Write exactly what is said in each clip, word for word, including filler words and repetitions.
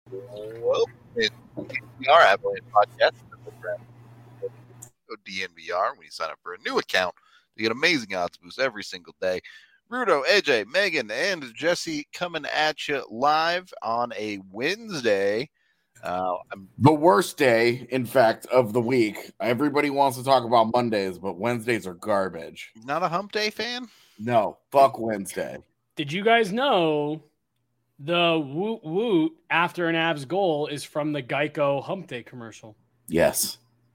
Well, it's D N V R Avalanche Podcast. Go D N V R when you sign up for a new account to get amazing odds boosts every single day. Rudo, A J, Megan, and Jesse coming at you live on a Wednesday. Uh, I'm, the worst day, in fact, of the week. Everybody wants to talk about Mondays, but Wednesdays are garbage. Not a hump day fan? No, fuck Wednesday. Did you guys know the woot woot after an Avs goal is from the Geico hump day commercial? Yes.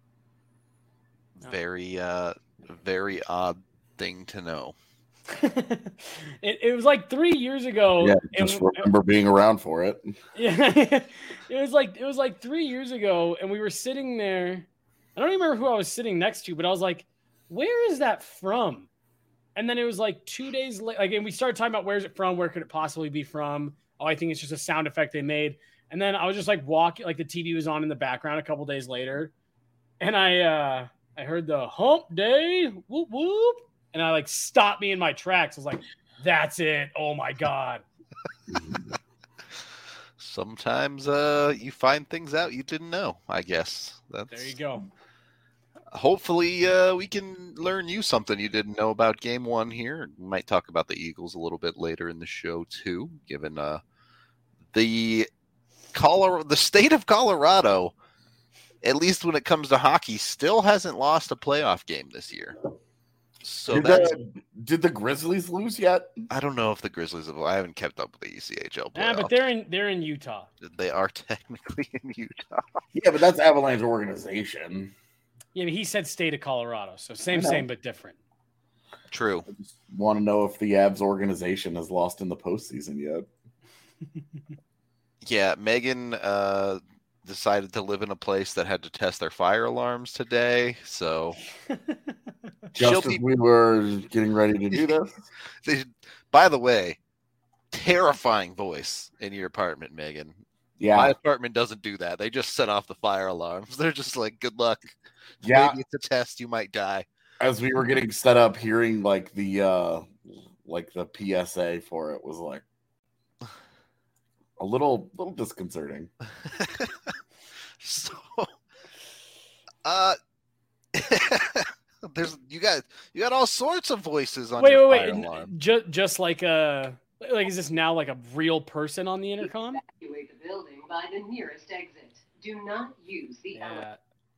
Very, uh, very odd thing to know. it, it was like three years ago. Yeah, just and, remember being around for it. Yeah, it was like it was like three years ago, and we were sitting there. I don't even remember who I was sitting next to, but I was like, "Where is that from?" And then it was like two days later, like, and we started talking about where's it from, where could it possibly be from? Oh, I think it's just a sound effect they made. And then I was just like walking, like the T V was on in the background a couple days later, and I uh, I heard the hump day, whoop whoop. And I like stopped me in my tracks. I was like, that's it. Oh my God. Sometimes uh, you find things out you didn't know, I guess. That's... There you go. Hopefully uh, we can learn you something you didn't know about game one here. We might talk about the Eagles a little bit later in the show too, given uh, the Colorado, the state of Colorado, at least when it comes to hockey, still hasn't lost a playoff game this year. So did, the, did the Grizzlies lose yet? I don't know if the Grizzlies have. I haven't kept up with the E C H L playoffs. Yeah, but they're in they're in Utah. They are technically in Utah. Yeah, but that's Avalanche organization. Yeah, but he said state of Colorado, so same, same, but different. True. I just want to know if the Avs organization has lost in the postseason yet. Yeah, Megan uh, decided to live in a place that had to test their fire alarms today, so just as be... we were getting ready to do this. they, by the way, terrifying voice in your apartment, Megan. Yeah, my apartment doesn't do that. They just set off the fire alarms. They're just like, "Good luck. Yeah, maybe it's a test. You might die." As we were getting set up, hearing like the uh, like the P S A for it was like a little little disconcerting. So, uh, there's you got you got all sorts of voices on wait, your wait, fire wait. alarm. Just just like a like is this now like a real person on the intercom? Evacuate the building by the nearest exit. Do not use the yeah.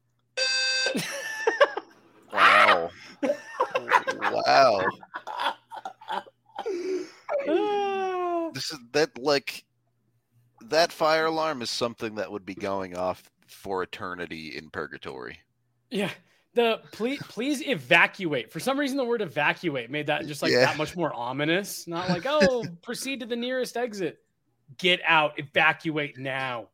Wow. Wow. This is that like that fire alarm is something that would be going off for eternity in purgatory. Yeah. The please please evacuate. For some reason the word evacuate made that just like yeah. that much more ominous. Not like, oh, proceed to the nearest exit. Get out, evacuate now.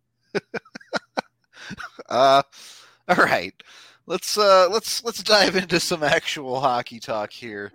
uh all right. Let's uh let's let's dive into some actual hockey talk here.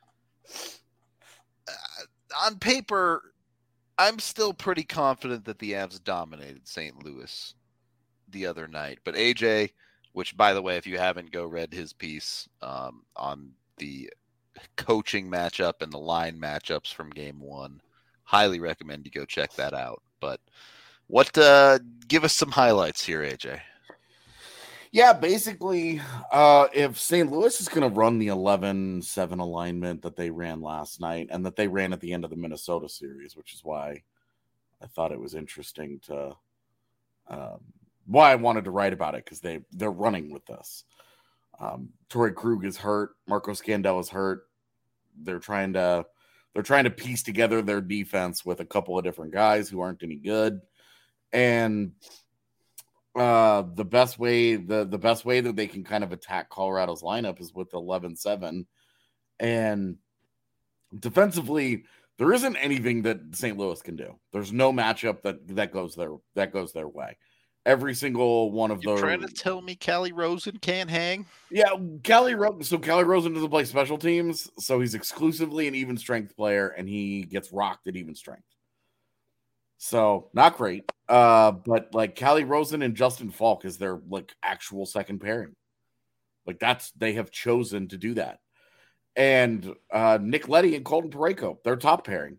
Uh, on paper, I'm still pretty confident that the Avs dominated Saint Louis the other night. But A J, which by the way, if you haven't go read his piece um, on the coaching matchup and the line matchups from game one, highly recommend you go check that out. But what uh, give us some highlights here, A J. Yeah, basically, uh, if Saint Louis is going to run the eleven seven alignment that they ran last night and that they ran at the end of the Minnesota series, which is why I thought it was interesting to um, why I wanted to write about it, because they, they're running with this. Um, Torrey Krug is hurt. Marco Scandella is hurt. They're trying to they're trying to piece together their defense with a couple of different guys who aren't any good. And Uh, the best way the, the best way that they can kind of attack Colorado's lineup is with eleven seven. And defensively, there isn't anything that Saint Louis can do. There's no matchup that, that goes their that goes their way. Every single one of You're those. Trying to tell me Callie Rosen can't hang? Yeah, Callie Rosen. So Callie Rosen doesn't play special teams, so he's exclusively an even strength player, and he gets rocked at even strength. So not great. Uh, but like Callie Rosen and Justin Falk is their like actual second pairing. Like that's they have chosen to do that. And uh, Nick Leddy and Colton Parayko, their top pairing.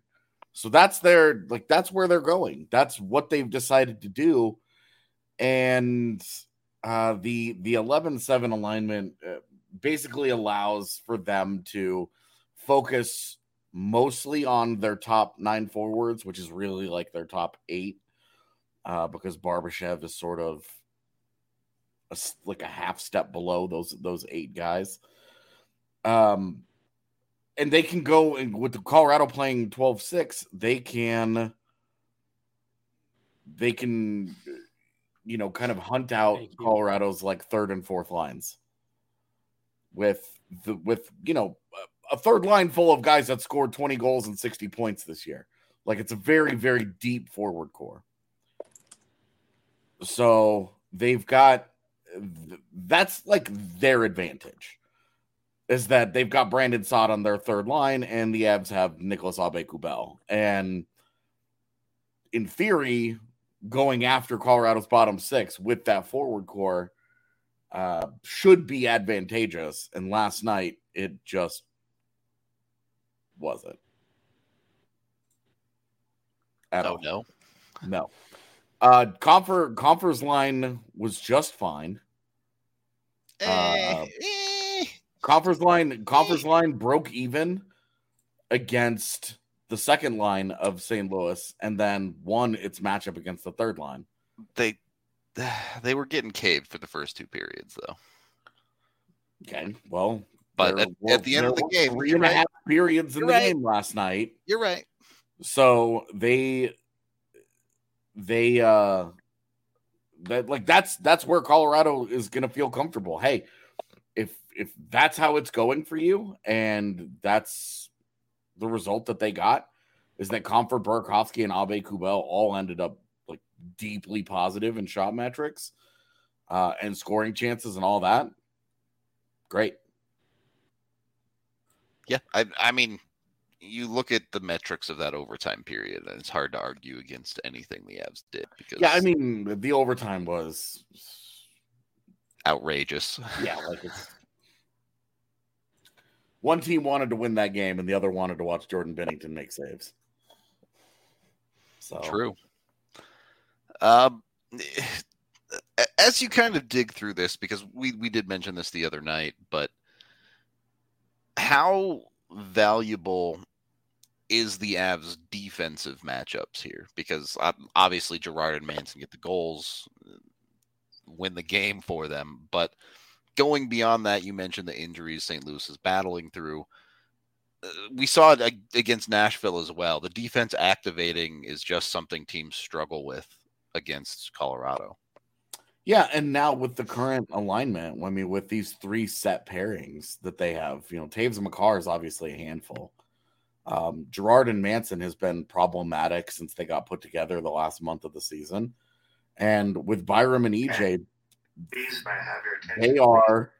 So that's their like that's where they're going. That's what they've decided to do. And uh, the the eleven seven alignment uh, basically allows for them to focus mostly on their top nine forwards, which is really like their top eight, uh, because Barbashev is sort of a, like a half step below those those eight guys. Um, and they can go and with the Colorado playing twelve six, they can they can you know kind of hunt out Colorado's like third and fourth lines with the with you know a third line full of guys that scored twenty goals and sixty points this year. Like it's a very very deep forward core. So they've got that's like their advantage. Is that they've got Brandon Saad on their third line, and the Avs have Nicolas Aube-Kubel. And in theory, going after Colorado's bottom six with that forward core uh, should be advantageous. And last night, it just wasn't. At oh, all. no? No. Uh, Comfer, Comfer's line was just fine. Uh, eh. Conference line, conference line broke even against the second line of Saint Louis, and then won its matchup against the third line. They they were getting caved for the first two periods, though. Okay, well, but at, were, at the end of the game, three and a right. half periods in you're the right. game last night. You're right. So they they uh that like that's that's where Colorado is going to feel comfortable. Hey. If if that's how it's going for you, and that's the result that they got, is that Comfer, Burakovsky, and Aube-Kubel all ended up like deeply positive in shot metrics uh, and scoring chances and all that. Great. Yeah, I I mean, you look at the metrics of that overtime period, and it's hard to argue against anything the Avs did. Because yeah, I mean, the overtime was outrageous. Yeah, like it's one team wanted to win that game and the other wanted to watch Jordan Binnington make saves. So true. Um, as you kind of dig through this, because we we did mention this the other night, but how valuable is the Avs' defensive matchups here? Because obviously Girard and Manson get the goals, win the game for them, but going beyond that, you mentioned the injuries Saint Louis is battling through. Uh, we saw it against Nashville as well. The defense activating is just something teams struggle with against Colorado. Yeah, and now with the current alignment, I mean, with these three set pairings that they have, you know, Taves and Makar is obviously a handful. Um, Girard and Manson has been problematic since they got put together the last month of the season. And with Byram and E J, they are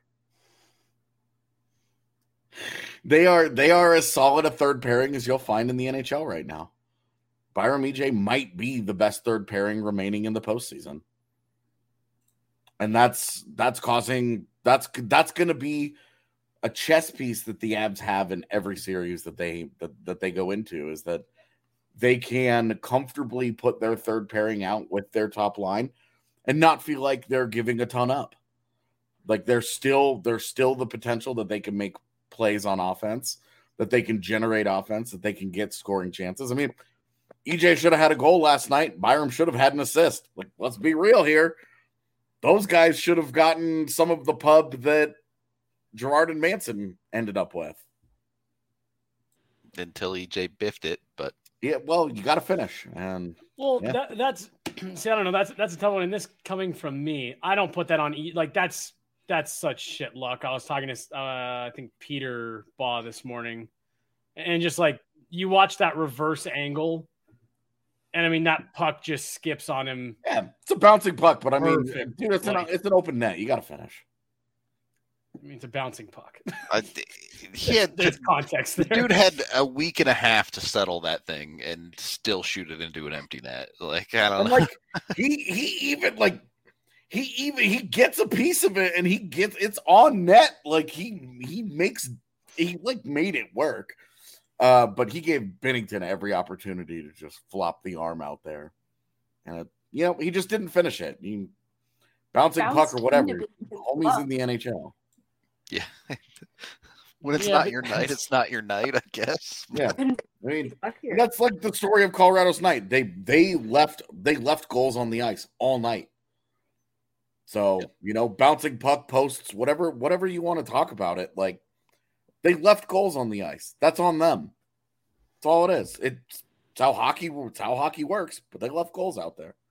they are they are as solid a third pairing as you'll find in the N H L right now. Byram E J might be the best third pairing remaining in the postseason. And that's that's causing that's that's going to be a chess piece that the Avs have in every series that they that, that they go into, is that they can comfortably put their third pairing out with their top line and not feel like they're giving a ton up. Like there's still there's still the potential that they can make plays on offense, that they can generate offense, that they can get scoring chances. I mean, E J should have had a goal last night. Byram should have had an assist. Like, let's be real here. Those guys should have gotten some of the pub that Girard and Manson ended up with. Until E J biffed it, but yeah, well, you got to finish. And well, yeah. that, that's see, I don't know. That's that's a tough one. And this coming from me, I don't put that on. E- like that's that's such shit luck. I was talking to uh, I think Peter Baugh this morning, and just like you watch that reverse angle. And I mean, that puck just skips on him. Yeah, it's a bouncing puck, but I mean, Perfect. dude, it's an, it's an open net. You got to finish. I mean, it's a bouncing puck. I, he had, There's context there. The dude had a week and a half to settle that thing and still shoot it into an empty net. Like, I don't and know. Like, he, he even, like, he even, he gets a piece of it and he gets, it's on net. Like, he, he makes, he, like, made it work. Uh, but he gave Binnington every opportunity to just flop the arm out there. And, it, you know, he just didn't finish it. He, bouncing Bounced puck or whatever. into Homie's in the N H L. Yeah. When it's Yeah, not but- your night, it's not your night, I guess. Yeah. I mean, Fuck here. that's like the story of Colorado's night. They they left they left goals on the ice all night. So, Yep. you know, bouncing puck posts, whatever whatever you want to talk about it, like they left goals on the ice. That's on them. That's all it is. It's, it's how hockey it's how hockey works, but they left goals out there.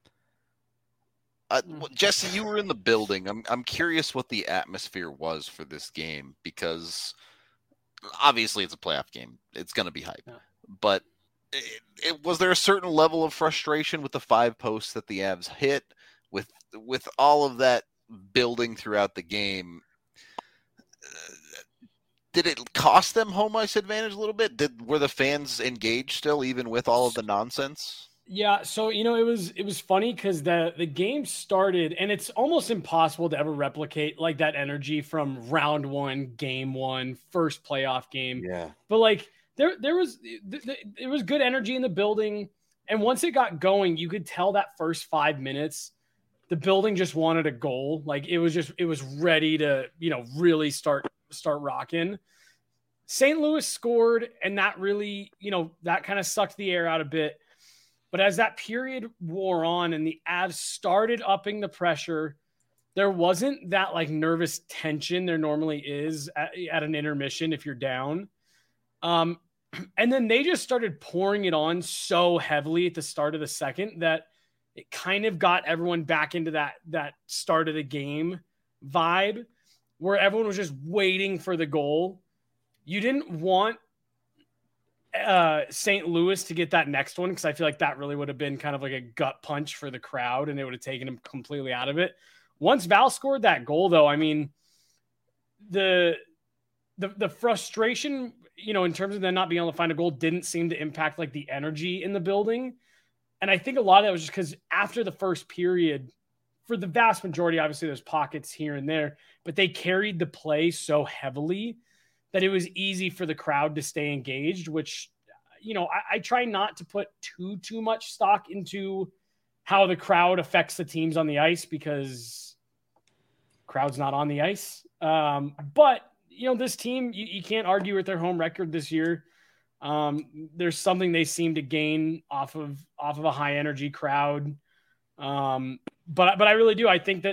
Uh, well, Jesse, you were in the building. I'm I'm curious what the atmosphere was for this game because obviously it's a playoff game. It's going to be hype. Yeah. But it, it, was there a certain level of frustration with the five posts that the Avs hit with with all of that building throughout the game? Uh, did it cost them home ice advantage a little bit? Did were the fans engaged still even with all of the nonsense? Yeah, so you know it was it was funny because the the game started and it's almost impossible to ever replicate like that energy from round one, game one, first playoff game. Yeah. But like there there was th- th- there was good energy in the building, and once it got going, you could tell that first five minutes the building just wanted a goal. Like it was just it was ready to you know really start start rocking. Saint Louis scored, and that really you know that kind of sucked the air out a bit. But as that period wore on and the Avs started upping the pressure, there wasn't that like nervous tension there normally is at, at an intermission if you're down. Um, and then they just started pouring it on so heavily at the start of the second that it kind of got everyone back into that, that start of the game vibe where everyone was just waiting for the goal. You didn't want uh Saint Louis to get that next one because I feel like that really would have been kind of like a gut punch for the crowd and it would have taken him completely out of it. Once Val scored that goal though, I mean the the the frustration, you know, in terms of them not being able to find a goal didn't seem to impact like the energy in the building. And I think a lot of that was just because after the first period, for the vast majority, obviously there's pockets here and there, but they carried the play so heavily that it was easy for the crowd to stay engaged, which, you know, I, I try not to put too, too much stock into how the crowd affects the teams on the ice because crowd's not on the ice. Um, but, you know, this team, you, you can't argue with their home record this year. Um, there's something they seem to gain off of, off of a high energy crowd. Um, but, but I really do. I think that,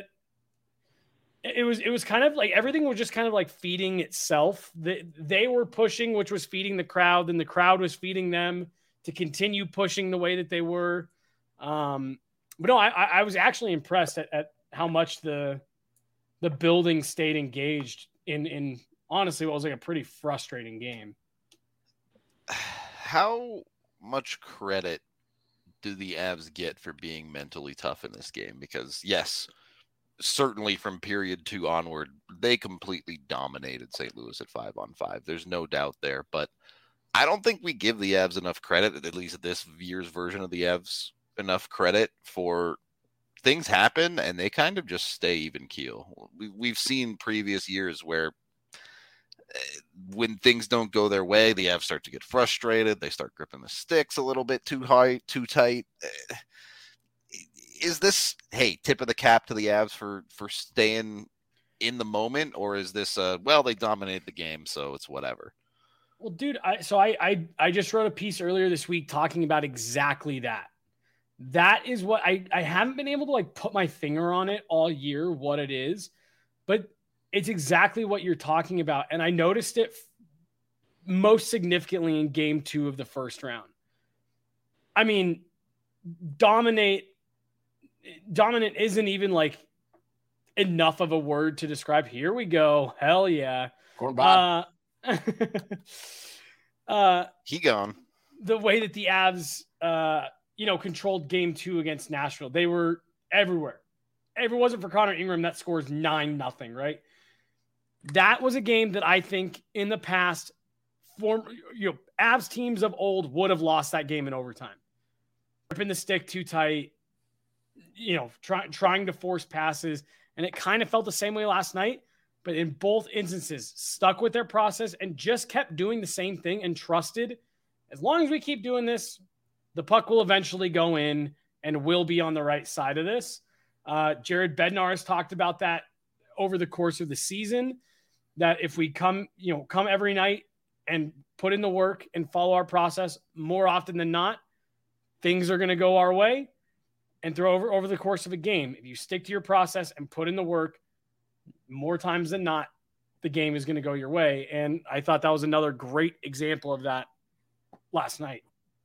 It was it was kind of like everything was just kind of like feeding itself. They, they were pushing, which was feeding the crowd, and the crowd was feeding them to continue pushing the way that they were. Um, but no, I, I was actually impressed at, at how much the the building stayed engaged in in honestly what was like a pretty frustrating game. How much credit do the Avs get for being mentally tough in this game? Because yes, certainly from period two onward, they completely dominated Saint Louis at five on five. There's no doubt there, but I don't think we give the Avs enough credit, at least this year's version of the Avs, enough credit for things happen and they kind of just stay even keel. We've seen previous years where when things don't go their way, the Avs start to get frustrated. They start gripping the sticks a little bit too high, too tight. Is this, hey, tip of the cap to the Avs for, for staying in the moment, or is this, uh, well, they dominated the game, so it's whatever? Well, dude, I, so I, I I just wrote a piece earlier this week talking about exactly that. That is what I, I haven't been able to like put my finger on it all year, what it is, but it's exactly what you're talking about. And I noticed it most significantly in game two of the first round. I mean, dominate, dominant isn't even like enough of a word to describe. Here we go. Hell yeah. Corn Bob. Uh, uh, he gone. The way that the Avs, uh, you know, controlled game two against Nashville, they were everywhere. If it wasn't for Connor Ingram, that scores nine nothing, right? That was a game that I think in the past, form you know, Avs teams of old would have lost that game in overtime. Ripping the stick too tight, you know, try, trying to force passes, and it kind of felt the same way last night. but in both instances, stuck with their process and just kept doing the same thing and trusted, as long as we keep doing this, the puck will eventually go in and we'll be on the right side of this. Uh, Jared Bednar has talked about that over the course of the season, that if we come, you know, come every night and put in the work and follow our process, more often than not, things are going to go our way. And throw over, over the course of a game, if you stick to your process and put in the work, more times than not, the game is going to go your way. And I thought that was another great example of that last night.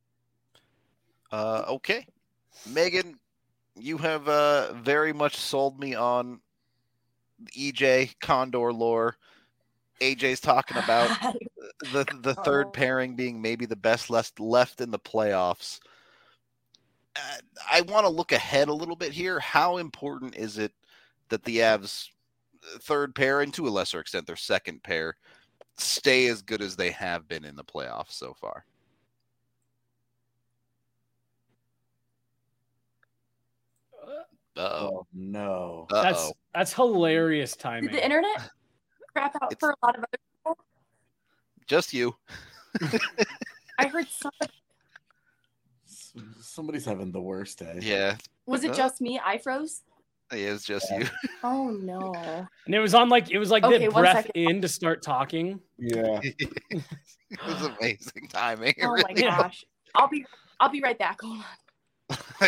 Uh, okay. Megan, you have uh, very much sold me on E J Condor lore. A J's talking about the the third Oh. pairing being maybe the best left left in the playoffs. Uh, I want to look ahead a little bit here. How important is it that the Avs' third pair, and to a lesser extent their second pair, stay as good as they have been in the playoffs so far? Uh-oh. Oh no. That's Uh-oh. that's hilarious timing. Did the internet crap out It's- for a lot of other people? Just you. I heard somebody. Somebody's having the worst day. Yeah. Was it Uh, just me? I froze. It is just you. Oh no. And it was on like it was like Okay, the one breath second. in to start talking. Yeah. It was amazing timing. It Oh my really gosh. I'll be I'll be right back. Hold on.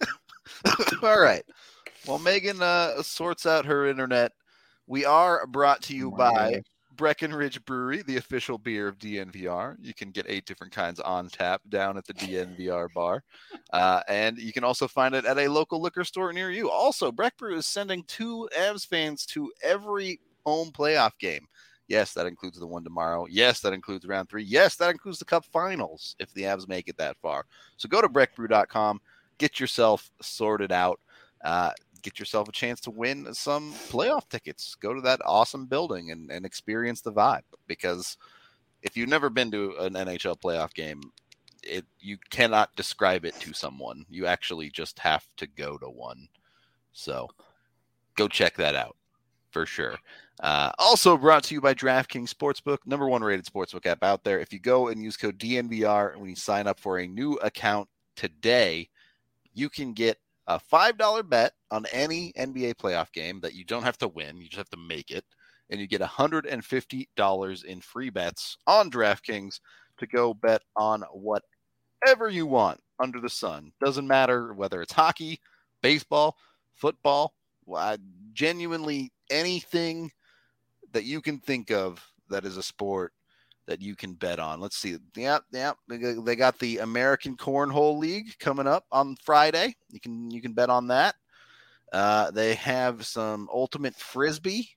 All right. Well, Megan uh, sorts out her internet. We are brought to you Oh my by gosh. Breckenridge Brewery, the official beer of D N V R. You can get eight different kinds on tap down at the D N V R bar. Uh, and you can also find it at a local liquor store near you. Also, Breck Brew is sending two Avs fans to every home playoff game. Yes, that includes the one tomorrow. Yes, that includes round three. Yes, that includes the Cup Finals if the Avs make it that far. So go to breck brew dot com, get yourself sorted out. Uh, get yourself a chance to win some playoff tickets. Go to that awesome building and, and experience the vibe. Because if you've never been to an N H L playoff game, it you cannot describe it to someone. You actually just have to go to one. So go check that out for sure. Uh, also brought to you by DraftKings Sportsbook, number one rated sportsbook app out there. If you go and use code D N V R when you sign up for a new account today, you can get a five dollar bet on any N B A playoff game that you don't have to win. You just have to make it. And you get one hundred fifty dollars in free bets on DraftKings to go bet on whatever you want under the sun. Doesn't matter whether it's hockey, baseball, football, well, genuinely anything that you can think of that is a sport that you can bet on. Let's see. Yep, yep. They got the American Cornhole League coming up on Friday. You can you can bet on that. Uh, they have some Ultimate Frisbee,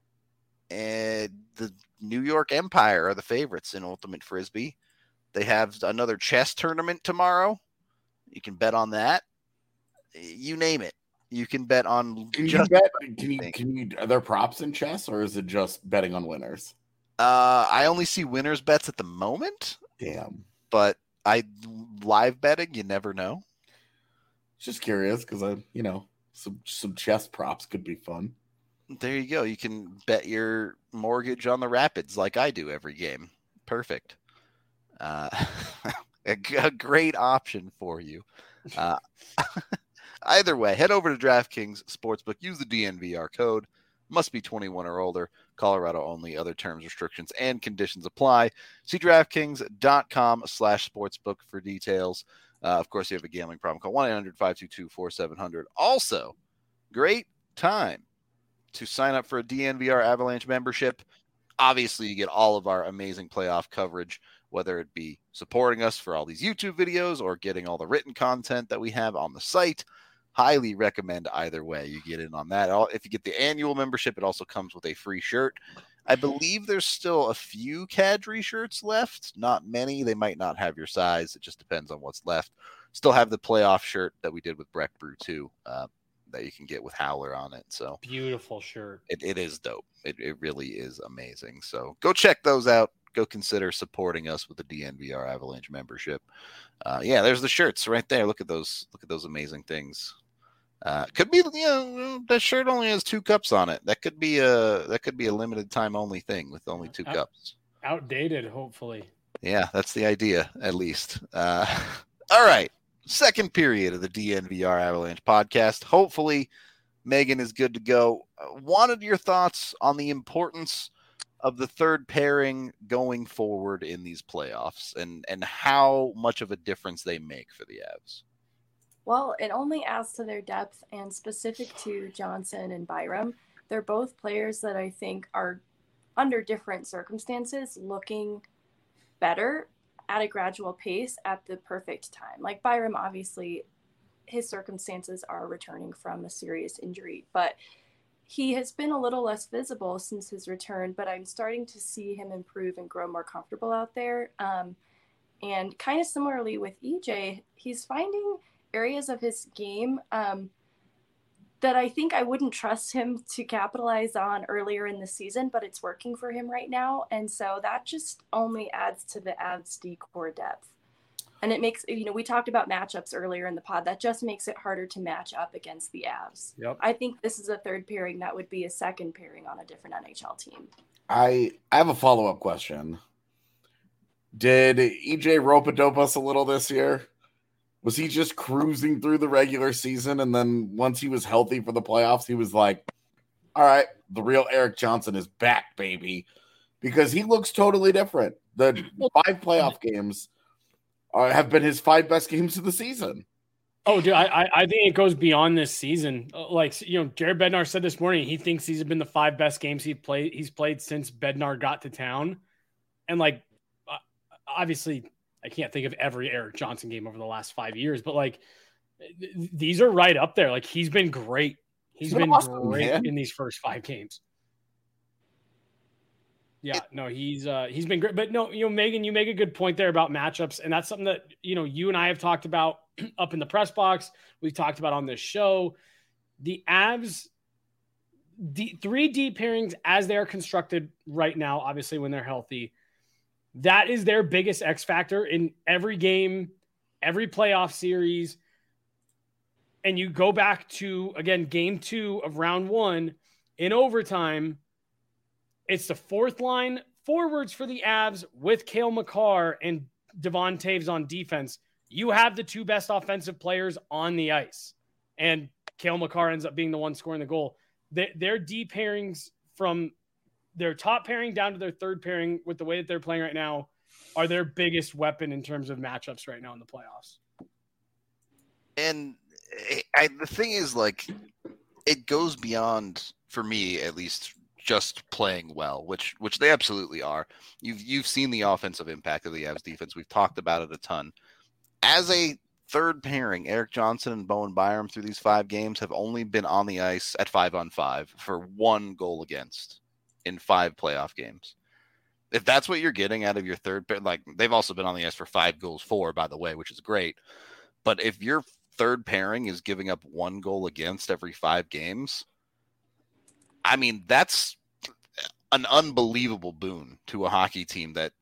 and the New York Empire are the favorites in Ultimate Frisbee. They have another chess tournament tomorrow. You can bet on that. You name it. You can bet on. Can you just bet? Can you? Can you? Are there props in chess, or is it just betting on winners? Uh, I only see winners bets at the moment, Damn. but I live betting. You never know. Just curious because I, you know, some some chess props could be fun. There you go. You can bet your mortgage on the Rapids like I do every game. Perfect. Uh, a, g- a great option for you. Uh, either way, head over to DraftKings Sportsbook. Use the D N V R code. Must be twenty-one or older. Colorado only. Other terms, restrictions, and conditions apply. See DraftKings.com slash sportsbook for details. Uh, of course, if you have a gambling problem, call one eight hundred five two two four seven zero zero. Also, great time to sign up for a D N V R Avalanche membership. Obviously, you get all of our amazing playoff coverage, whether it be supporting us for all these YouTube videos or getting all the written content that we have on the site. Highly recommend either way. You get in on that. If you get the annual membership, it also comes with a free shirt. I believe there's still a few Kadri shirts left. Not many. They might not have your size. It just depends on what's left. Still have the playoff shirt that we did with Breck Brew too, uh, that you can get with Howler on it. So Beautiful shirt. it, it is dope. It, it really is amazing. So go check those out. Go consider supporting us with the D N V R Avalanche membership. Uh, yeah, there's the shirts right there. Look at those. Look at those amazing things. Uh, could be, you know, that shirt only has two cups on it. That could be a that could be a limited time only thing with only two Out, cups. Outdated, hopefully. Yeah, that's the idea, at least. Uh, all right, second period of the D N V R Avalanche podcast. Hopefully, Megan is good to go. Uh, wanted your thoughts on the importance of the third pairing going forward in these playoffs, and and how much of a difference they make for the Avs. Well, it only adds to their depth, and specific to Johnson and Byram, they're both players that I think are, under different circumstances, looking better at a gradual pace at the perfect time. Like Byram, obviously, his circumstances are returning from a serious injury, but he has been a little less visible since his return, but I'm starting to see him improve and grow more comfortable out there. Um, and kind of similarly with E J, he's finding areas of his game um, that I think I wouldn't trust him to capitalize on earlier in the season, but it's working for him right now. And so that just only adds to the Avs D-core depth. And it makes, you know, we talked about matchups earlier in the pod. That just makes it harder to match up against the Avs. Yep. I think this is a third pairing that would be a second pairing on a different N H L team. I I have a follow-up question. Did E J rope-a-dope us a little this year? Was he just cruising through the regular season, and then once he was healthy for the playoffs, he was like, all right, the real Erik Johnson is back, baby. Because he looks totally different. The five playoff games are, have been his five best games of the season. Oh, dude, I I think it goes beyond this season. Like, you know, Jared Bednar said this morning, he thinks these have been the five best games he played. He's played since Bednar got to town, and like, obviously, I can't think of every Erik Johnson game over the last five years, but like, th- these are right up there. Like, he's been great. He's, He's been awesome, great man. in these first five games. Yeah, no, he's uh, he's been great. But no, you know, Megan, you make a good point there about matchups, and that's something that, you know, you and I have talked about up in the press box. We've talked about on this show. The Avs, the three D pairings as they are constructed right now, obviously when they're healthy, that is their biggest X factor in every game, every playoff series. And you go back to, again, game two of round one in overtime. It's the fourth line forwards for the Avs with Cale Makar and Devon Taves on defense. You have the two best offensive players on the ice. And Cale Makar ends up being the one scoring the goal. Their, their D pairings from their top pairing down to their third pairing with the way that they're playing right now are their biggest weapon in terms of matchups right now in the playoffs. And I, the thing is, like, it goes beyond, for me at least, just playing well, which which they absolutely are. You've you've seen the offensive impact of the Avs defense. We've talked about it a ton. As a third pairing, Erik Johnson and Bowen Byram through these five games have only been on the ice at five on five for one goal against in five playoff games. If that's what you're getting out of your third pair, like, they've also been on the ice for five goals for, by the way, which is great. But if your third pairing is giving up one goal against every five games, I mean, that's an unbelievable boon to a hockey team. That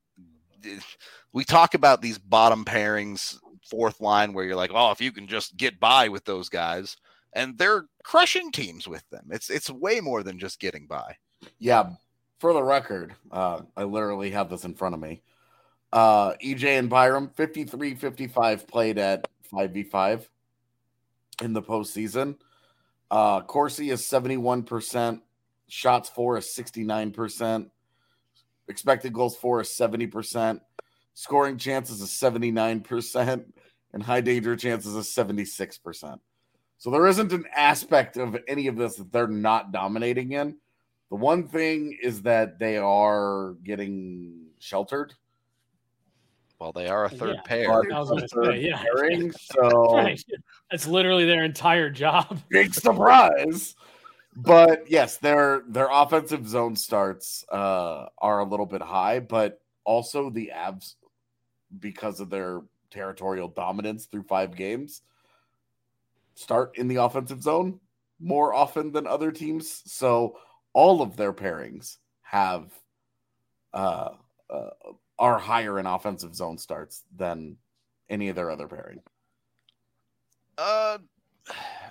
we talk about these bottom pairings, fourth line, where you're like, oh, if you can just get by with those guys, and they're crushing teams with them. It's it's way more than just getting by. Yeah, for the record, uh, I literally have this in front of me. Uh, E J and Byram, fifty-three fifty-five played at five v five in the postseason. Uh, Corsi is seventy-one percent. Shots for is sixty-nine percent. Expected goals for is seventy percent. Scoring chances is seventy-nine percent. And high danger chances is seventy-six percent. So there isn't an aspect of any of this that they're not dominating in. The one thing is that they are getting sheltered. Well, they are a third Yeah. pair. I was gonna say, yeah. Pairing, so Right. That's literally their entire job. big surprise. But yes, their their offensive zone starts uh, are a little bit high, but also the Avs, because of their territorial dominance through five games, start in the offensive zone more often than other teams. So all of their pairings have uh, uh, are higher in offensive zone starts than any of their other pairing. Uh,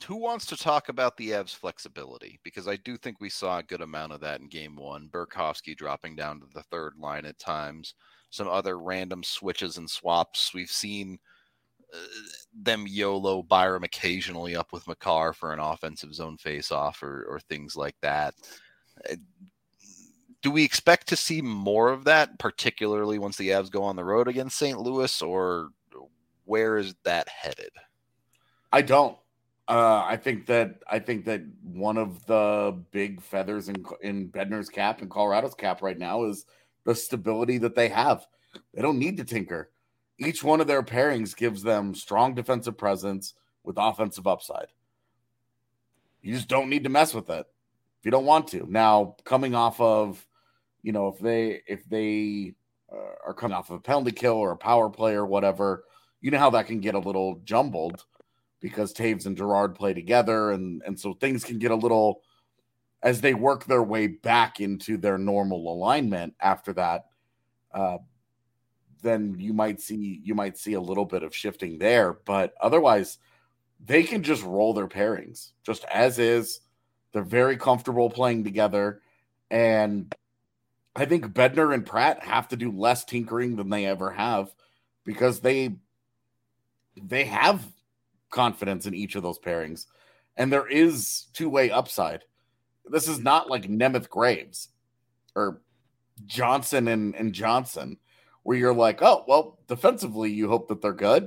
Who wants to talk about the Avs' flexibility? Because I do think we saw a good amount of that in game one. Burakovsky dropping down to the third line at times. Some other random switches and swaps. We've seen uh, them YOLO Byram occasionally up with Makar for an offensive zone faceoff or, or things like that. Uh, do we expect to see more of that, particularly once the Avs go on the road against Saint Louis, or where is that headed? I don't. Uh, I think that I think that one of the big feathers in in Bednar's cap and Colorado's cap right now is the stability that they have. They don't need to tinker. Each one of their pairings gives them strong defensive presence with offensive upside. You just don't need to mess with it if you don't want to. Now, coming off of, you know, if they if they uh, are coming off of a penalty kill or a power play or whatever, you know how that can get a little jumbled, because Taves and Girard play together, and, and so things can get a little, as they work their way back into their normal alignment after that, uh, then you might see you might see a little bit of shifting there. But otherwise, they can just roll their pairings just as is. They're very comfortable playing together, and I think Bednar and Pratt have to do less tinkering than they ever have, because they they have confidence in each of those pairings, and there is two-way upside. This is not like Nemeth Graves or Johnson and, and Johnson, where you're like, oh, well, defensively you hope that they're good.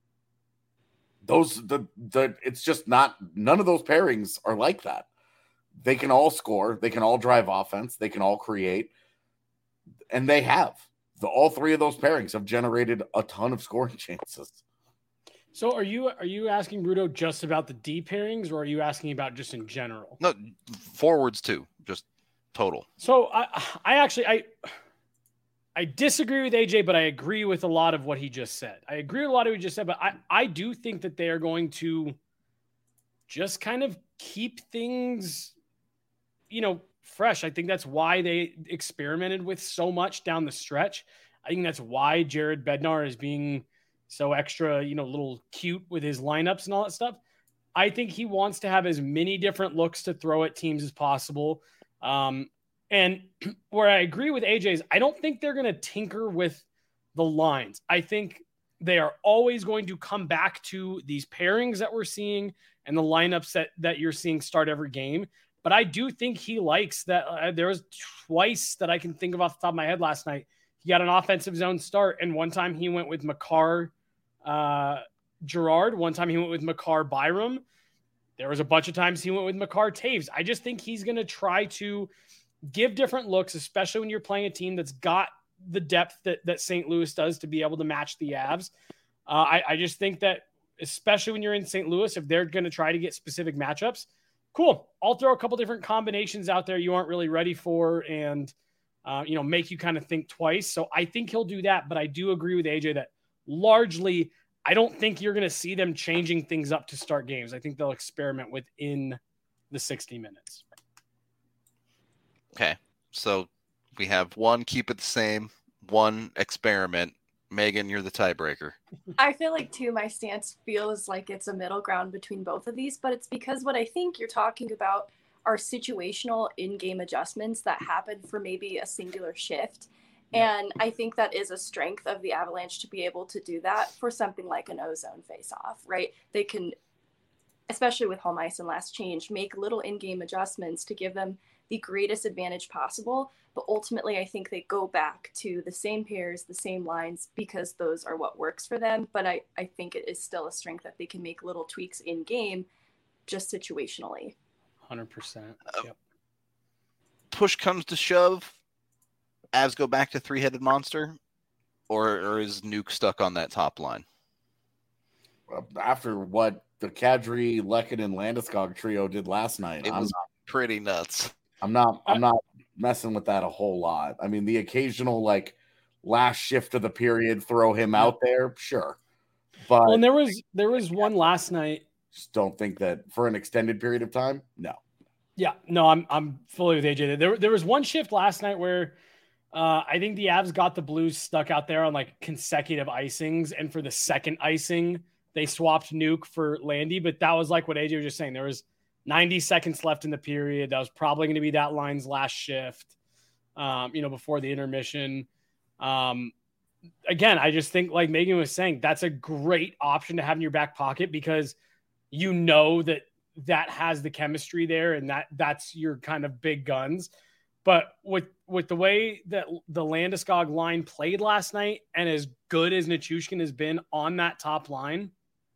Those the the it's just not, none of those pairings are like that. They can all score, they can all drive offense, they can all create, and they have. The all three of those pairings have generated a ton of scoring chances. So are you are you asking Rudo just about the D pairings, or are you asking about just in general? No, forwards too, just total. So I I actually I I disagree with A J, but I agree with a lot of what he just said. I agree with a lot of what he just said, but I, I do think that they are going to just kind of keep things, you know, fresh. I think that's why they experimented with so much down the stretch. I think that's why Jared Bednar is being so extra, you know, little cute with his lineups and all that stuff. I think he wants to have as many different looks to throw at teams as possible. Um, and where I agree with A J is I don't think they're going to tinker with the lines. I think they are always going to come back to these pairings that we're seeing and the lineups that, that you're seeing start every game. But I do think he likes that. Uh, there was twice that I can think of off the top of my head last night. He got an offensive zone start, and one time he went with Makar uh, Girard. One time he went with Makar Byram. There was a bunch of times he went with Makar Taves. I just think he's going to try to give different looks, especially when you're playing a team that's got the depth that, that Saint Louis does to be able to match the Avs. Uh, I, I just think that, especially when you're in Saint Louis, if they're going to try to get specific matchups, cool. I'll throw a couple different combinations out there you aren't really ready for, and uh, you know, make you kind of think twice. So I think he'll do that, but I do agree with A J that largely I don't think you're going to see them changing things up to start games. I think they'll experiment within the sixty minutes. Okay, so we have one keep it the same, one experiment. Megan, you're the tiebreaker. I feel like, too, my stance feels like it's a middle ground between both of these, but it's because what I think you're talking about are situational in-game adjustments that happen for maybe a singular shift. And I think that is a strength of the Avalanche to be able to do that for something like an ozone face-off, right? They can, especially with home ice and last change, make little in-game adjustments to give them the greatest advantage possible. But ultimately, I think they go back to the same pairs, the same lines, because those are what works for them. But I, I think it is still a strength that they can make little tweaks in game, just situationally. one hundred percent. Yep. Push comes to shove, Avs go back to three-headed monster, or, or is Nuke stuck on that top line? After what the Kadri, Lekin, and Landeskog trio did last night, It I'm was not, pretty nuts. I'm not, I'm not messing with that a whole lot. I mean, the occasional like last shift of the period, throw him out there, sure, but Well, and there was there was one last night. just don't think that for an extended period of time. No. Yeah, no, I'm I'm fully with A J. There there was one shift last night where uh, I think the Avs got the Blues stuck out there on like consecutive icings, and for the second icing, they swapped Nuke for Landy, but that was like what A J was just saying. There was ninety seconds left in the period. That was probably going to be that line's last shift, um, you know, before the intermission. Um, again, I just think, like Megan was saying, that's a great option to have in your back pocket because you know that that has the chemistry there and that that's your kind of big guns. But with with the way that the Landeskog line played last night and as good as Nichushkin has been on that top line,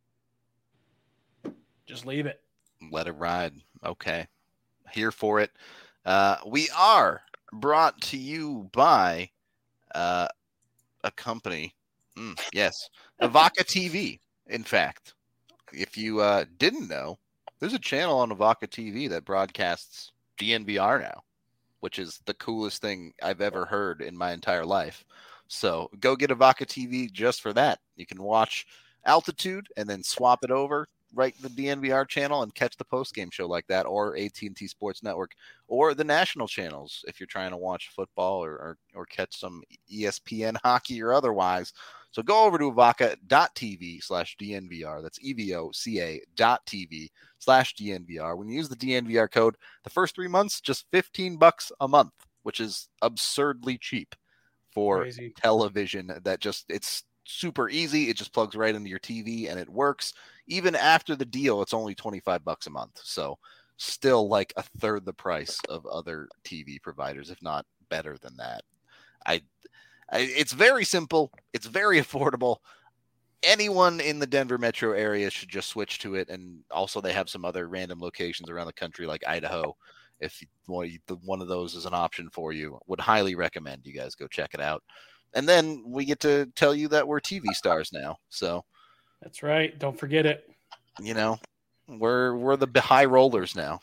just leave it. Let it ride. Okay. Here for it. Uh, we are brought to you by uh, a company. Mm, yes. Avaka T V, in fact. If you uh, didn't know, there's a channel on Avaka T V that broadcasts D N V R now, which is the coolest thing I've ever heard in my entire life. So go get Avaka T V just for that. You can watch Altitude and then swap it over, right the D N V R channel and catch the post-game show like that, or A T and T Sports Network, or the national channels if you're trying to watch football or, or, or catch some E S P N hockey or otherwise. So go over to avaka.tv slash DNVR. That's E-V-O-C-A dot TV slash DNVR. When you use the D N V R code, the first three months, just fifteen bucks a month, which is absurdly cheap for Crazy. television. That just, it's super easy. It just plugs right into your T V and it works. Even after the deal, it's only twenty-five bucks a month. So still like a third the price of other T V providers, if not better than that. I, I it's very simple. It's very affordable. Anyone in the Denver metro area should just switch to it. And also they have some other random locations around the country like Idaho. If you, well, you, the, one of those is an option for you, would highly recommend you guys go check it out. And then we get to tell you that we're T V stars now. So That's right. Don't forget it. you know, we're we're the high rollers now.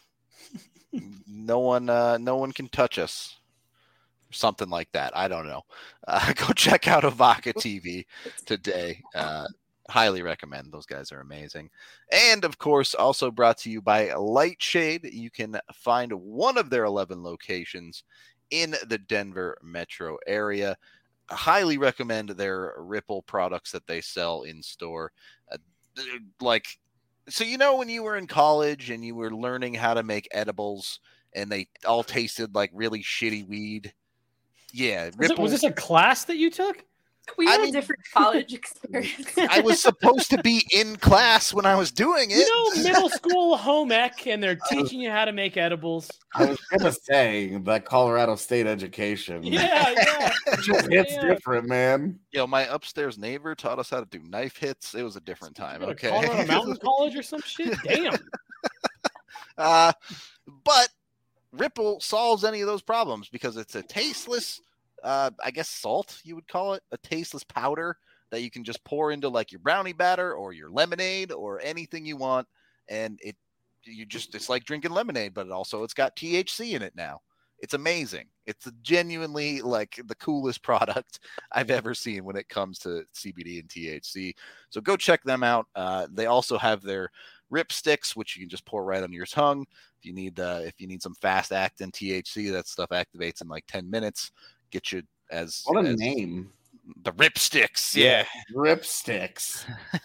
no one uh, no one can touch us. Something like that. I don't know. Uh, go check out Avaka T V today. Uh, highly recommend. Those guys are amazing. And of course, also brought to you by Lightshade. You can find one of their eleven locations in the Denver metro area. Highly recommend their Ripple products that they sell in store. Uh, like, so you know when you were in college and you were learning how to make edibles and they all tasted like really shitty weed? Yeah. Was, it, was this a class that you took? We I had mean- a different college experience. I was supposed to be in class when I was doing it. You know, middle school home ec, and they're teaching you how to make edibles. I was gonna say that Colorado State education. Yeah, yeah. It just hits Yeah. different, man. Yo, my upstairs neighbor taught us how to do knife hits. It was a different time. Go to Okay. Colorado Mountain College or some shit? Damn. Uh, but Ripple solves any of those problems because it's a tasteless, uh, I guess salt, you would call it, a tasteless powder that you can just pour into like your brownie batter or your lemonade or anything you want. And it, you just, it's like drinking lemonade, but it also it's got T H C in it now. It's amazing. It's a genuinely like the coolest product I've ever seen when it comes to C B D and T H C. So go check them out. Uh, they also have their Rip Sticks, which you can just pour right on your tongue. If you need, uh, if you need some fast acting T H C, that stuff activates in like ten minutes. Get you as What a as name. the Rip Sticks. Yeah. Rip Sticks.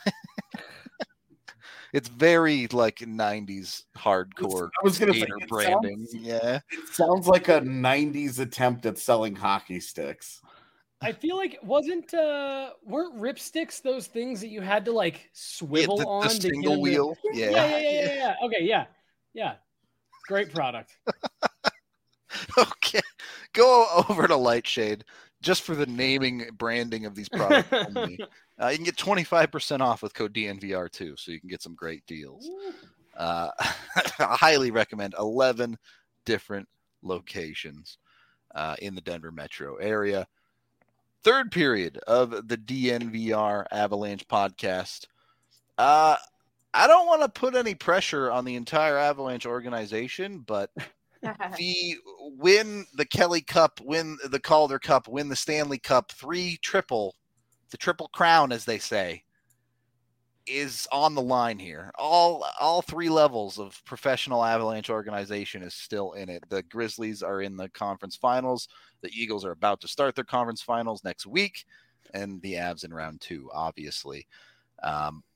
It's very like nineties hardcore I was gonna say, skater it branding. sounds- Yeah. It sounds like a nineties attempt at selling hockey sticks. I feel like wasn't uh weren't ripsticks those things that you had to like swivel yeah, the, on the to get single them to- wheel. Yeah, yeah, yeah, yeah, yeah. Okay, yeah. Yeah. Great product. Okay. Go over to Lightshade just for the naming branding of these products only. Uh, you can get twenty-five percent off with code D N V R too, so you can get some great deals. Uh, I highly recommend eleven different locations uh, in the Denver metro area. Third period of the D N V R Avalanche podcast. Uh, I don't want to put any pressure on the entire Avalanche organization, but the win the Kelly Cup, win the Calder Cup, win the Stanley Cup, three triple, the triple crown, as they say, is on the line here. All all three levels of professional Avalanche organization is still in it. The Grizzlies are in the conference finals. The Eagles are about to start their conference finals next week, and the Avs in round two, obviously. Um,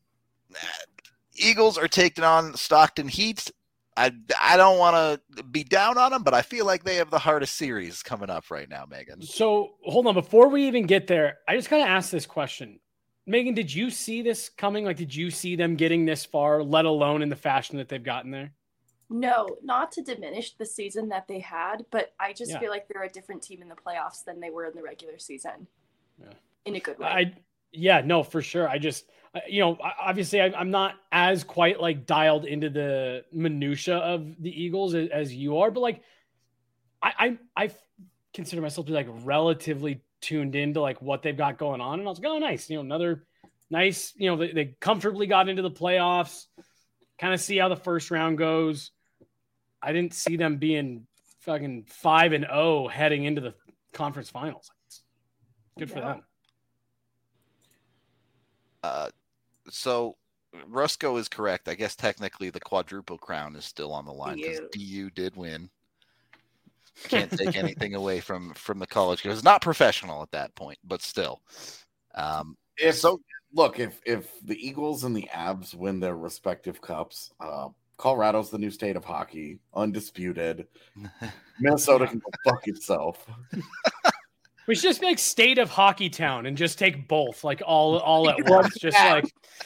Eagles are taking on Stockton Heat. I, I don't want to be down on them, but I feel like they have the hardest series coming up right now, Megan. So hold on. Before we even get there, I just got to ask this question. Megan, did you see this coming? Like, did you see them getting this far, let alone in the fashion that they've gotten there? No, not to diminish the season that they had, but I just Yeah. feel like they're a different team in the playoffs than they were in the regular season. Yeah. In a good way. I, yeah, no, for sure. I just, you know, obviously I, I'm not as quite like dialed into the minutia of the Eagles as, as you are, but like, I, I, I consider myself to be like relatively tuned into like what they've got going on. And I was like, oh, nice. You know, another nice, you know, they, they comfortably got into the playoffs, kind of see how the first round goes. I didn't see them being fucking five and oh heading into the conference finals. Good for Yeah. them. Uh, so Rusko is correct. I guess technically the quadruple crown is still on the line because D U. D U did win. Can't take anything away from from the college because it's not professional at that point, but still. Um, If so look, if if the Eagles and the Avs win their respective cups, uh, Colorado's the new state of hockey, undisputed. Minnesota can go fuck itself. We should just make state of Hockey Town and just take both, like all all at Yeah. once. Just like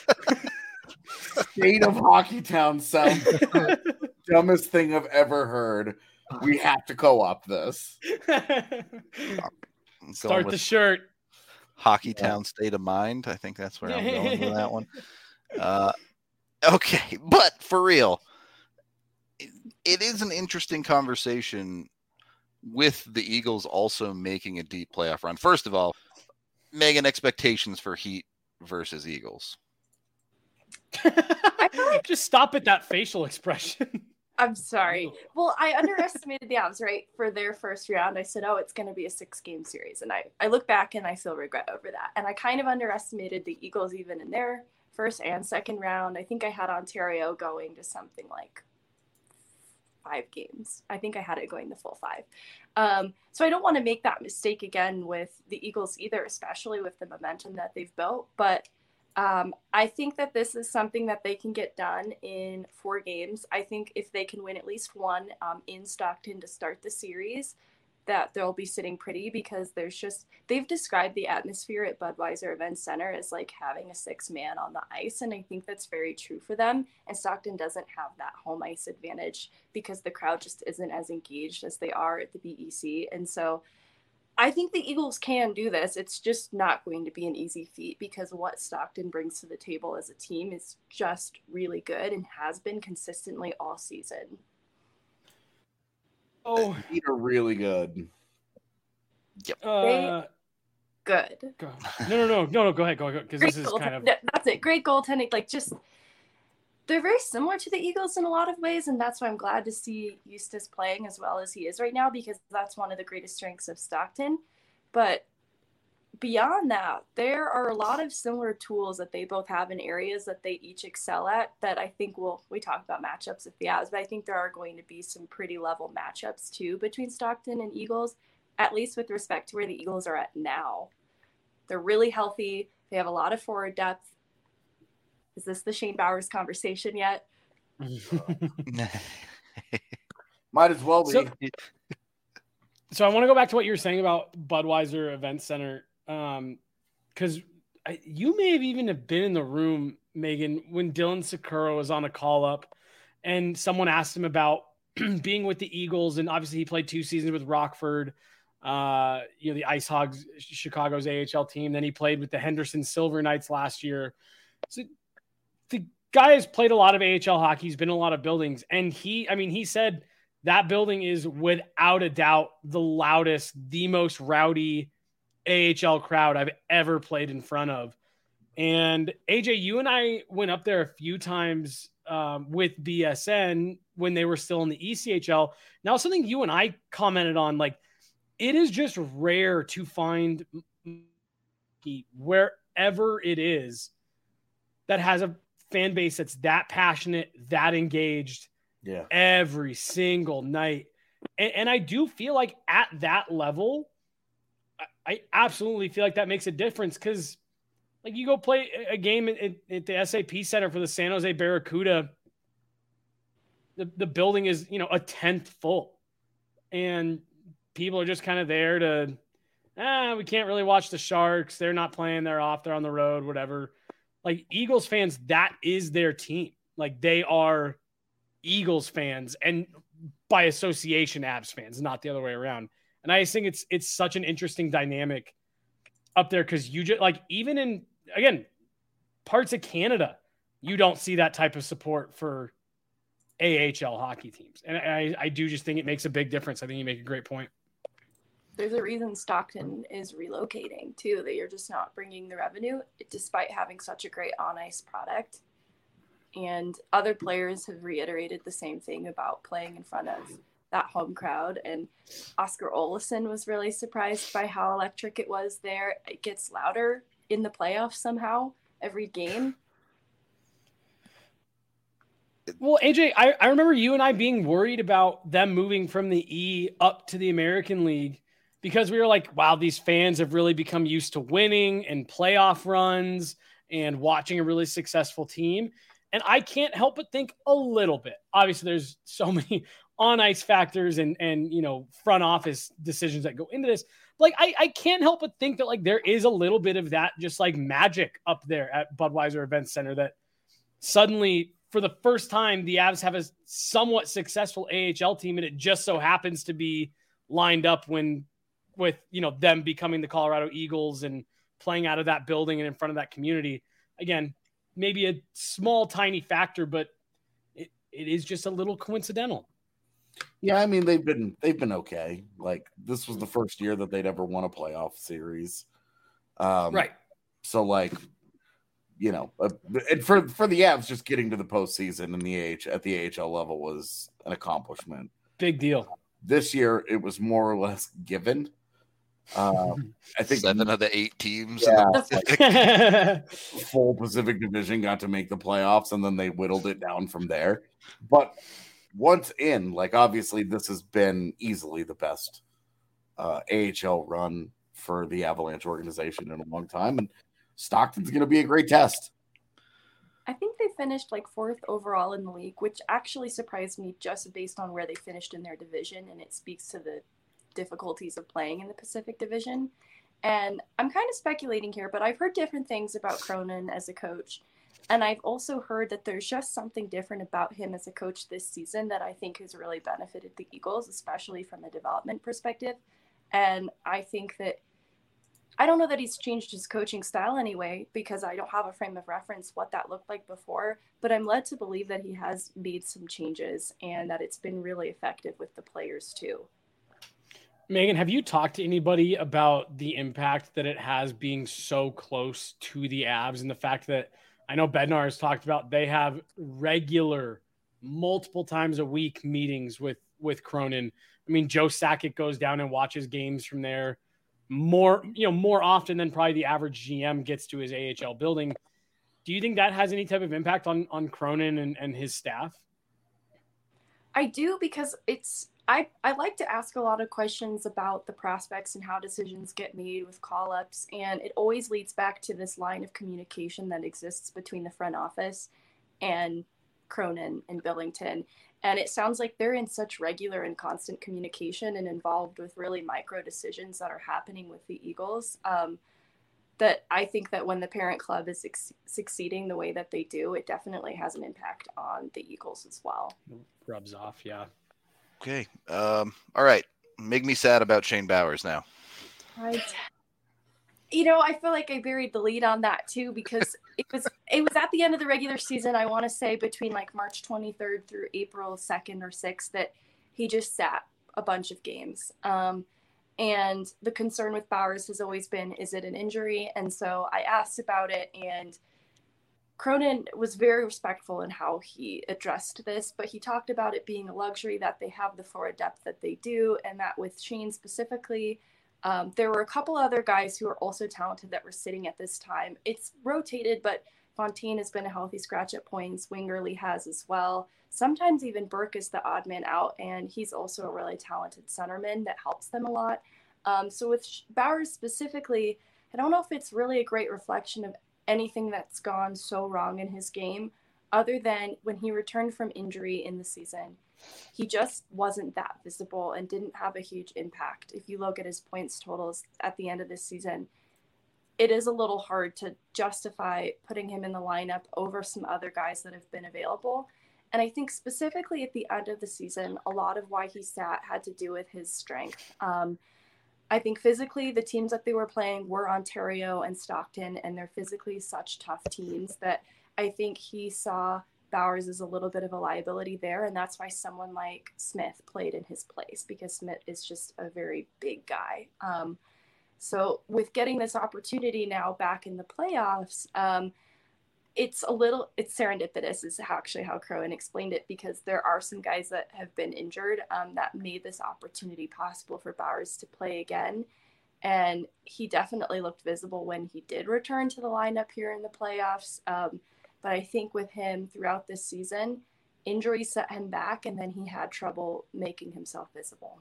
State of Hockey Town sounds the dumbest thing I've ever heard. We have to co-op this. going start the with shirt. Hockey Town State of Mind. I think that's where I'm going with that one. Uh, okay, but for real, it, it is an interesting conversation with the Eagles also making a deep playoff run. First of all, Megan, expectations for Heat versus Eagles. I feel like Just stop at that facial expression. I'm sorry. Well, I underestimated the Avs, right? For their first round, I said, oh, it's going to be a six-game series. And I, I look back and I feel regret over that. And I kind of underestimated the Eagles even in their first and second round. I think I had Ontario going to something like five games. I think I had it going the full five. Um, so I don't want to make that mistake again with the Eagles either, especially with the momentum that they've built. But Um, I think that this is something that they can get done in four games. I think if they can win at least one um, in Stockton to start the series, that they'll be sitting pretty because there's just, they've described the atmosphere at Budweiser Event Center as like having a six man on the ice. And I think that's very true for them. And Stockton doesn't have that home ice advantage because the crowd just isn't as engaged as they are at the B E C. And so I think the Eagles can do this. It's just not going to be an easy feat because what Stockton brings to the table as a team is just really good and has been consistently all season. Oh, Heat are really good. uh, Good. go. no, no, no, no, no. Go ahead, go, go. Because Great this is goal- kind of no, that's it. Great goaltending. Like just, they're very similar to the Eagles in a lot of ways, and that's why I'm glad to see Eustace playing as well as he is right now because that's one of the greatest strengths of Stockton. But beyond that, there are a lot of similar tools that they both have in areas that they each excel at that I think will, we talk about matchups with the Avs, but I think there are going to be some pretty level matchups too between Stockton and Eagles, at least with respect to where the Eagles are at now. They're really healthy. They have a lot of forward depth. Is this the Shane Bowers conversation yet? Might as well be. So- So I want to go back to what you were saying about Budweiser Event Center, um, because you may have even have been in the room, Megan, when Dylan Sakura was on a call up, and someone asked him about being with the Eagles, and obviously he played two seasons with Rockford, uh, you know, the Ice Hogs, Chicago's A H L team. Then he played with the Henderson Silver Knights last year. So the guy has played a lot of A H L hockey. He's been in a lot of buildings, and he, I mean, he said. That building is without a doubt the loudest, the most rowdy A H L crowd I've ever played in front of. And A J, you and I went up there a few times um, with B S N when they were still in the E C H L. Now, something you and I commented on, like, it is just rare to find wherever it is that has a fan base that's that passionate, that engaged, Yeah. every single night. And, and I do feel like at that level, I, I absolutely feel like that makes a difference because Like you go play a game at, at the S A P Center for the San Jose Barracuda. The, the building is, you know, a tenth full. And people are just kind of there to, ah, we can't really watch the Sharks. They're not playing. They're off. They're on the road, whatever. Like Eagles fans, that is their team. Like they are Eagles fans and by association Avs fans, not the other way around. And I just think it's, it's such an interesting dynamic up there. Cause you just like, even in, again, parts of Canada, you don't see that type of support for A H L hockey teams. And I, I do just think it makes a big difference. I think you make a great point. There's a reason Stockton is relocating too, that you're just not bringing the revenue despite having such a great on ice product. And other players have reiterated the same thing about playing in front of that home crowd. And Oscar Olesen was really surprised by how electric it was there. It gets louder in the playoffs somehow every game. Well, A J, I, I remember you and I being worried about them moving from the E up to the American League because we were like, wow, these fans have really become used to winning and playoff runs and watching a really successful team. And I can't help but think a little bit. Obviously, there's so many on-ice factors and, and you know, front office decisions that go into this. Like, I, I can't help but think that, like, there is a little bit of that just, like, magic up there at Budweiser Event Center that suddenly – for the first time, the Avs have a somewhat successful A H L team, and it just so happens to be lined up when, with, you know, them becoming the Colorado Eagles and playing out of that building and in front of that community. Again, maybe a small, tiny factor, but it, it is just a little coincidental. Yeah, I mean, they've been they've been okay. Like, this was the first year that they'd ever won a playoff series. Um, right. So, like, you know, uh, and for for the Avs, just getting to the postseason in the A H at the A H L level was an accomplishment. Big deal. This year, it was more or less given. Um, I think seven of the eight teams yeah, in the Pacific. full Pacific Division got to make the playoffs, and then they whittled it down from there. But once in, like, obviously, this has been easily the best uh, A H L run for the Avalanche organization in a long time, and Stockton's going to be a great test. I think they finished like fourth overall in the league, which actually surprised me just based on where they finished in their division. And it speaks to the difficulties of playing in the Pacific Division. And I'm kind of speculating here, but I've heard different things about Cronin as a coach. And I've also heard that there's just something different about him as a coach this season that I think has really benefited the Eagles, especially from a development perspective. And I think that I don't know that he's changed his coaching style anyway, because I don't have a frame of reference what that looked like before, but I'm led to believe that he has made some changes and that it's been really effective with the players too. Megan, have you talked to anybody about the impact that it has being so close to the Avs and the fact that I know Bednar has talked about they have regular, multiple times a week meetings with, with Cronin. I mean, Joe Sakic goes down and watches games from there more, you know, more often than probably the average G M gets to his A H L building. Do you think that has any type of impact on, on Cronin and, and his staff? I do, because it's, I, I like to ask a lot of questions about the prospects and how decisions get made with call-ups. And it always leads back to this line of communication that exists between the front office and Cronin and Billington. And it sounds like they're in such regular and constant communication and involved with really micro decisions that are happening with the Eagles. Um, that I think that when the parent club is ex- succeeding the way that they do, it definitely has an impact on the Eagles as well. Rubs off, yeah. Okay. Um, all right. Make me sad about Shane Bowers now. Right. You know, I feel like I buried the lead on that too, because it was it was at the end of the regular season, I want to say between like March twenty-third through April second or sixth, that he just sat a bunch of games. Um, and the concern with Bowers has always been, is it an injury? And so I asked about it, and Cronin was very respectful in how he addressed this, but he talked about it being a luxury that they have the forward depth that they do, and that with Shane specifically, Um, there were a couple other guys who are also talented that were sitting at this time. It's rotated, but Fontaine has been a healthy scratch at points. Wingerly has as well. Sometimes even Burke is the odd man out, and he's also a really talented centerman that helps them a lot. Um, so with Bowers specifically, I don't know if it's really a great reflection of anything that's gone so wrong in his game, other than when he returned from injury in the season. He just wasn't that visible and didn't have a huge impact. If you look at his points totals at the end of this season, it is a little hard to justify putting him in the lineup over some other guys that have been available. And I think specifically at the end of the season, a lot of why he sat had to do with his strength. Um, I think physically the teams that they were playing were Ontario and Stockton, and they're physically such tough teams that I think he saw Bowers as a little bit of a liability there. And that's why someone like Smith played in his place, because Smith is just a very big guy. Um, so with getting this opportunity now back in the playoffs, um, it's a little, it's serendipitous is actually how Crowan explained it, because there are some guys that have been injured um, that made this opportunity possible for Bowers to play again. And he definitely looked visible when he did return to the lineup here in the playoffs. Um, but I think with him throughout this season, injuries set him back, and then he had trouble making himself visible.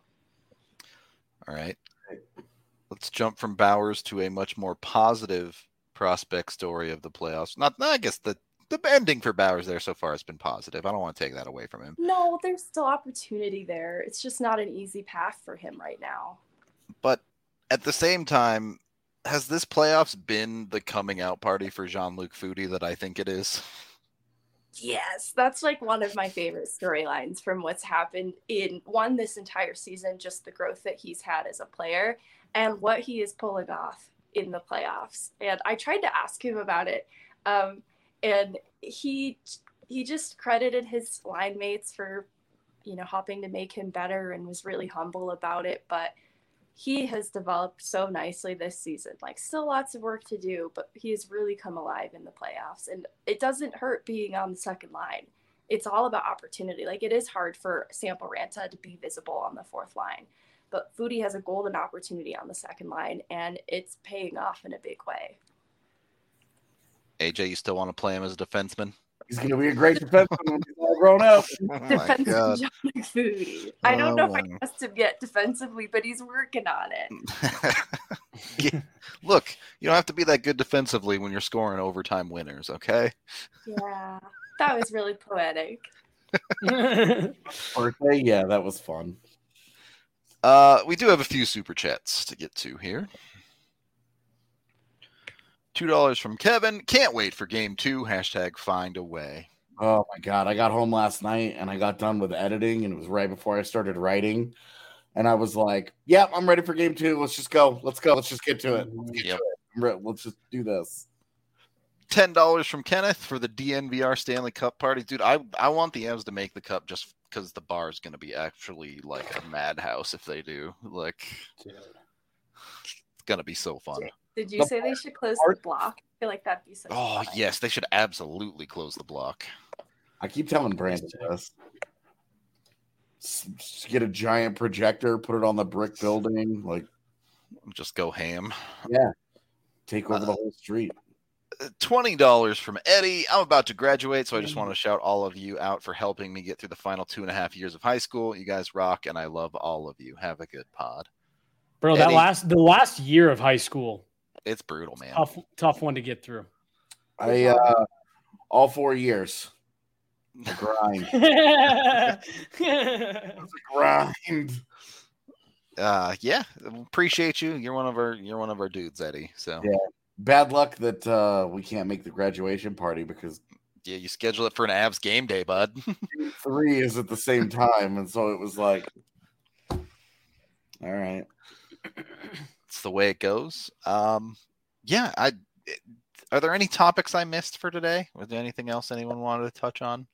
All right. Let's jump from Bowers to a much more positive prospect story of the playoffs. Not, I guess the, the ending for Bowers there so far has been positive. I don't want to take that away from him. No, there's still opportunity there. It's just not an easy path for him right now. But at the same time, has this playoffs been the coming out party for Jean-Luc Foudy that I think it is? Yes, that's like one of my favorite storylines from what's happened in one this entire season, just the growth that he's had as a player and what he is pulling off in the playoffs. And I tried to ask him about it. Um, and he he just credited his line mates for, you know, helping to make him better and was really humble about it. But he has developed so nicely this season. Like, still lots of work to do, but he has really come alive in the playoffs. And it doesn't hurt being on the second line. It's all about opportunity. Like, it is hard for Sampo Ranta to be visible on the fourth line, but Foudy has a golden opportunity on the second line, and it's paying off in a big way. A J, you still want to play him as a defenseman? He's going to be a great defenseman when he's all grown up. Oh Defensive Jean-Luc Foudy. I don't Oh know if I my. trust him yet defensively, but he's working on it. Yeah. Look, you don't have to be that good defensively when you're scoring overtime winners, okay? Yeah, that was really poetic. Birthday, yeah, that was fun. Uh, we do have a few super chats to get to here. Two dollars from Kevin. Can't wait for game two. Hashtag find a way. Oh my god, I got home last night and I got done with editing, and it was right before I started writing, and I was like, "Yep, yeah, I'm ready for game two. Let's just go. Let's go. Let's just get to it. Let's get Yep. to it. I'm re- Let's just do this." Ten dollars from Kenneth for the D N V R Stanley Cup party, dude. I I want the Avs to make the cup just because the bar is going to be actually like a madhouse if they do. Like, it's going to be so fun. Did you The say they should close the block? I feel like that'd be so Oh fun. yes, they should absolutely close the block. I keep telling Brandon this. S- s- Get a giant projector, put it on the brick building, like Just go ham. take over the whole street. twenty dollars from Eddie. I'm about to graduate, so I just want to shout all of you out for helping me get through the final two and a half years of high school. You guys rock, and I love all of you. Have a good pod. Bro, that Eddie. last the last year of high school, It's brutal, man. tough tough one to get through. I uh all four years. The grind. The grind. Uh, yeah, appreciate you. You're one of our you're one of our dudes, Eddie. So Yeah. Bad luck that uh we can't make the graduation party because yeah, you schedule it for an Avs game day, bud. three is at the same time, and so it was like, all right. It's the way it goes. Um, yeah, I. Are there any topics I missed for today? Was there anything else anyone wanted to touch on?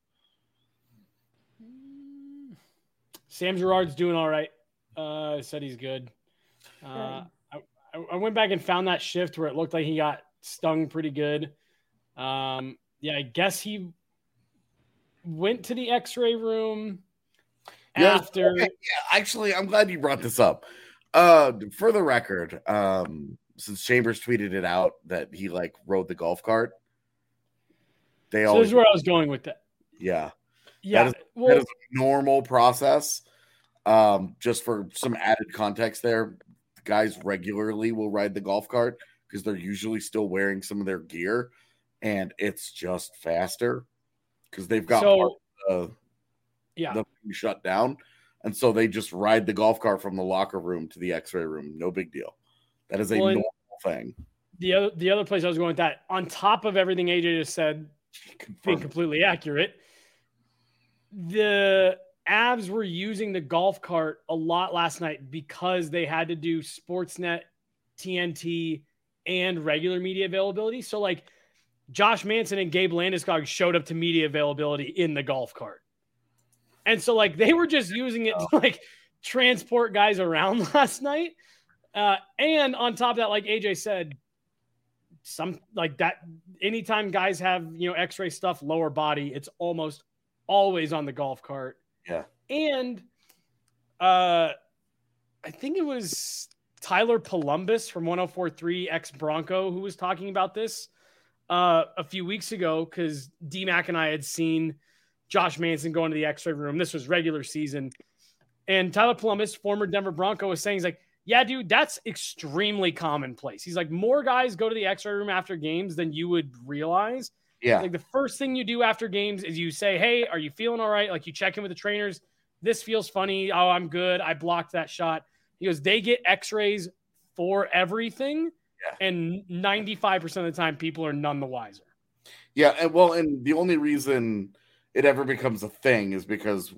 Sam Girard's doing all right. Uh, said he's good. Uh, I, I went back and found that shift where it looked like he got stung pretty good. Um, yeah, I guess he went to the X-ray room Yeah, after. okay, yeah, actually, I'm glad you brought this up. Uh, for the record, um, since Chambers tweeted it out that he like rode the golf cart, they So always, this is where I was going with that. yeah, Yeah, That is- well, that is a normal process. Um, just for some added context, there, guys regularly will ride the golf cart because they're usually still wearing some of their gear, and it's just faster because they've got So- part of the, Yeah. the thing shut down. And so they just ride the golf cart from the locker room to the x-ray room. No big deal. That is a Well, and- normal thing. The other the other place I was going with that, on top of everything A J just said, being Confirmed. completely accurate, the Avs were using the golf cart a lot last night because they had to do Sportsnet, T N T, and regular media availability. So like Josh Manson and Gabe Landeskog showed up to media availability in the golf cart. And so like they were just using it to like transport guys around last night. Uh, and on top of that, like A J said, some like that, anytime guys have, you know, x-ray stuff, lower body, it's almost always on the golf cart. Yeah. And uh, I think it was Tyler Columbus from one oh four point three ex Bronco who was talking about this uh, a few weeks ago, because D-Mac and I had seen Josh Manson go into the x-ray room. This was regular season. And Tyler Columbus, former Denver Bronco, was saying, he's like, yeah, dude, that's extremely commonplace. He's like, more guys go to the x-ray room after games than you would realize. Yeah. Like the first thing you do after games is you say, hey, are you feeling all right? Like you check in with the trainers. This feels funny. Oh, I'm good. I blocked that shot. He goes, they get x-rays for everything. Yeah. And ninety-five percent of the time, people are none the wiser. Yeah. And well, and the only reason it ever becomes a thing is because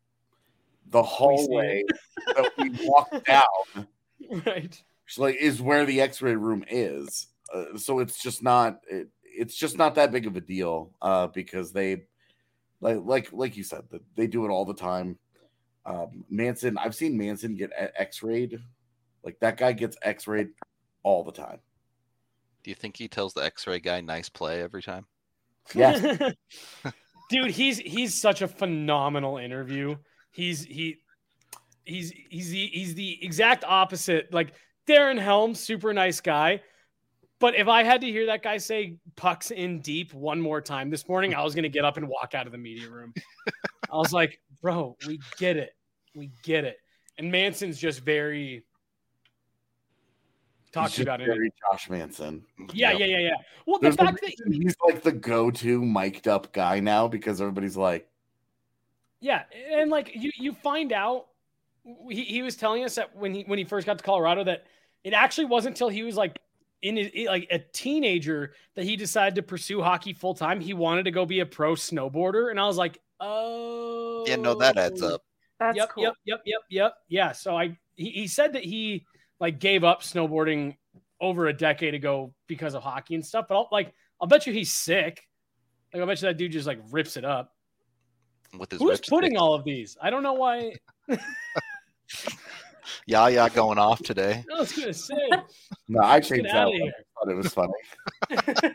the hallway that we walk down Right. like is where the x-ray room is. Uh, so it's just not it, it's just not that big of a deal uh, because they like like like you said that they do it all the time. Um, Manson, I've seen Manson get x-rayed. Like that guy gets x-rayed all the time. Do you think he tells the X-ray guy nice play every time? Yes. Dude, he's he's such a phenomenal interview. He's he he's he's the he's the exact opposite. Like Darren Helms, super nice guy. But if I had to hear that guy say pucks in deep one more time this morning, I was gonna get up and walk out of the media room. I was like, bro, we get it. We get it. And Manson's just very talk He's to you just about it. very Josh Manson. Yeah, Yep. yeah, yeah, yeah. Well, the There's a fact that reason he's like the go-to mic'd up guy now because everybody's like, yeah, and like you, you find out he, he was telling us that when he when he first got to Colorado that it actually wasn't until he was like in his, like a teenager that he decided to pursue hockey full time. He wanted to go be a pro snowboarder, and I was like, oh, Yeah, no, that adds up. That's yep, cool. yep, yep, yep, yep. Yeah, so I he, he said that he like gave up snowboarding over a decade ago because of hockey and stuff. But I'll, like, I'll bet you he's sick. Like, I'll bet you that dude just like rips it up. With his Who's ripstick. putting all of these? I don't know why. Yeah, yeah, going off today. I was gonna say, no, I get changed that out of one. here. I thought it was funny.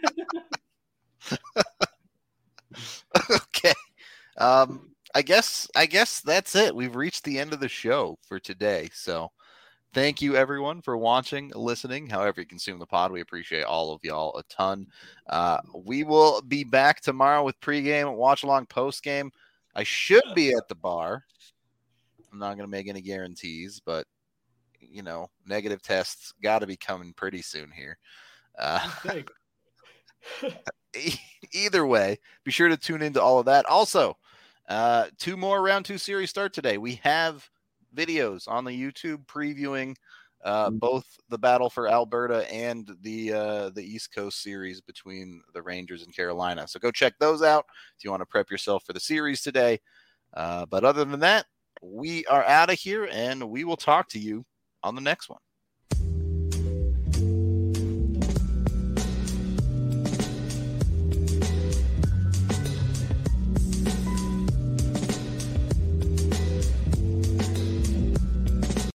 Okay. Um, I guess I guess that's it. We've reached the end of the show for today. So thank you everyone for watching, listening, however you consume the pod. We appreciate all of y'all a ton. Uh, we will be back tomorrow with pregame, watch along, postgame. I should be at the bar. I'm not going to make any guarantees, but you know, negative tests got to be coming pretty soon here. Uh, Okay. e- either way, be sure to tune into all of that. Also, uh, two more round two series start today. We have videos on the YouTube previewing uh, both the battle for Alberta and the uh, the East Coast series between the Rangers and Carolina. So go check those out if you want to prep yourself for the series today. Uh, but other than that, we are out of here, and we will talk to you on the next one.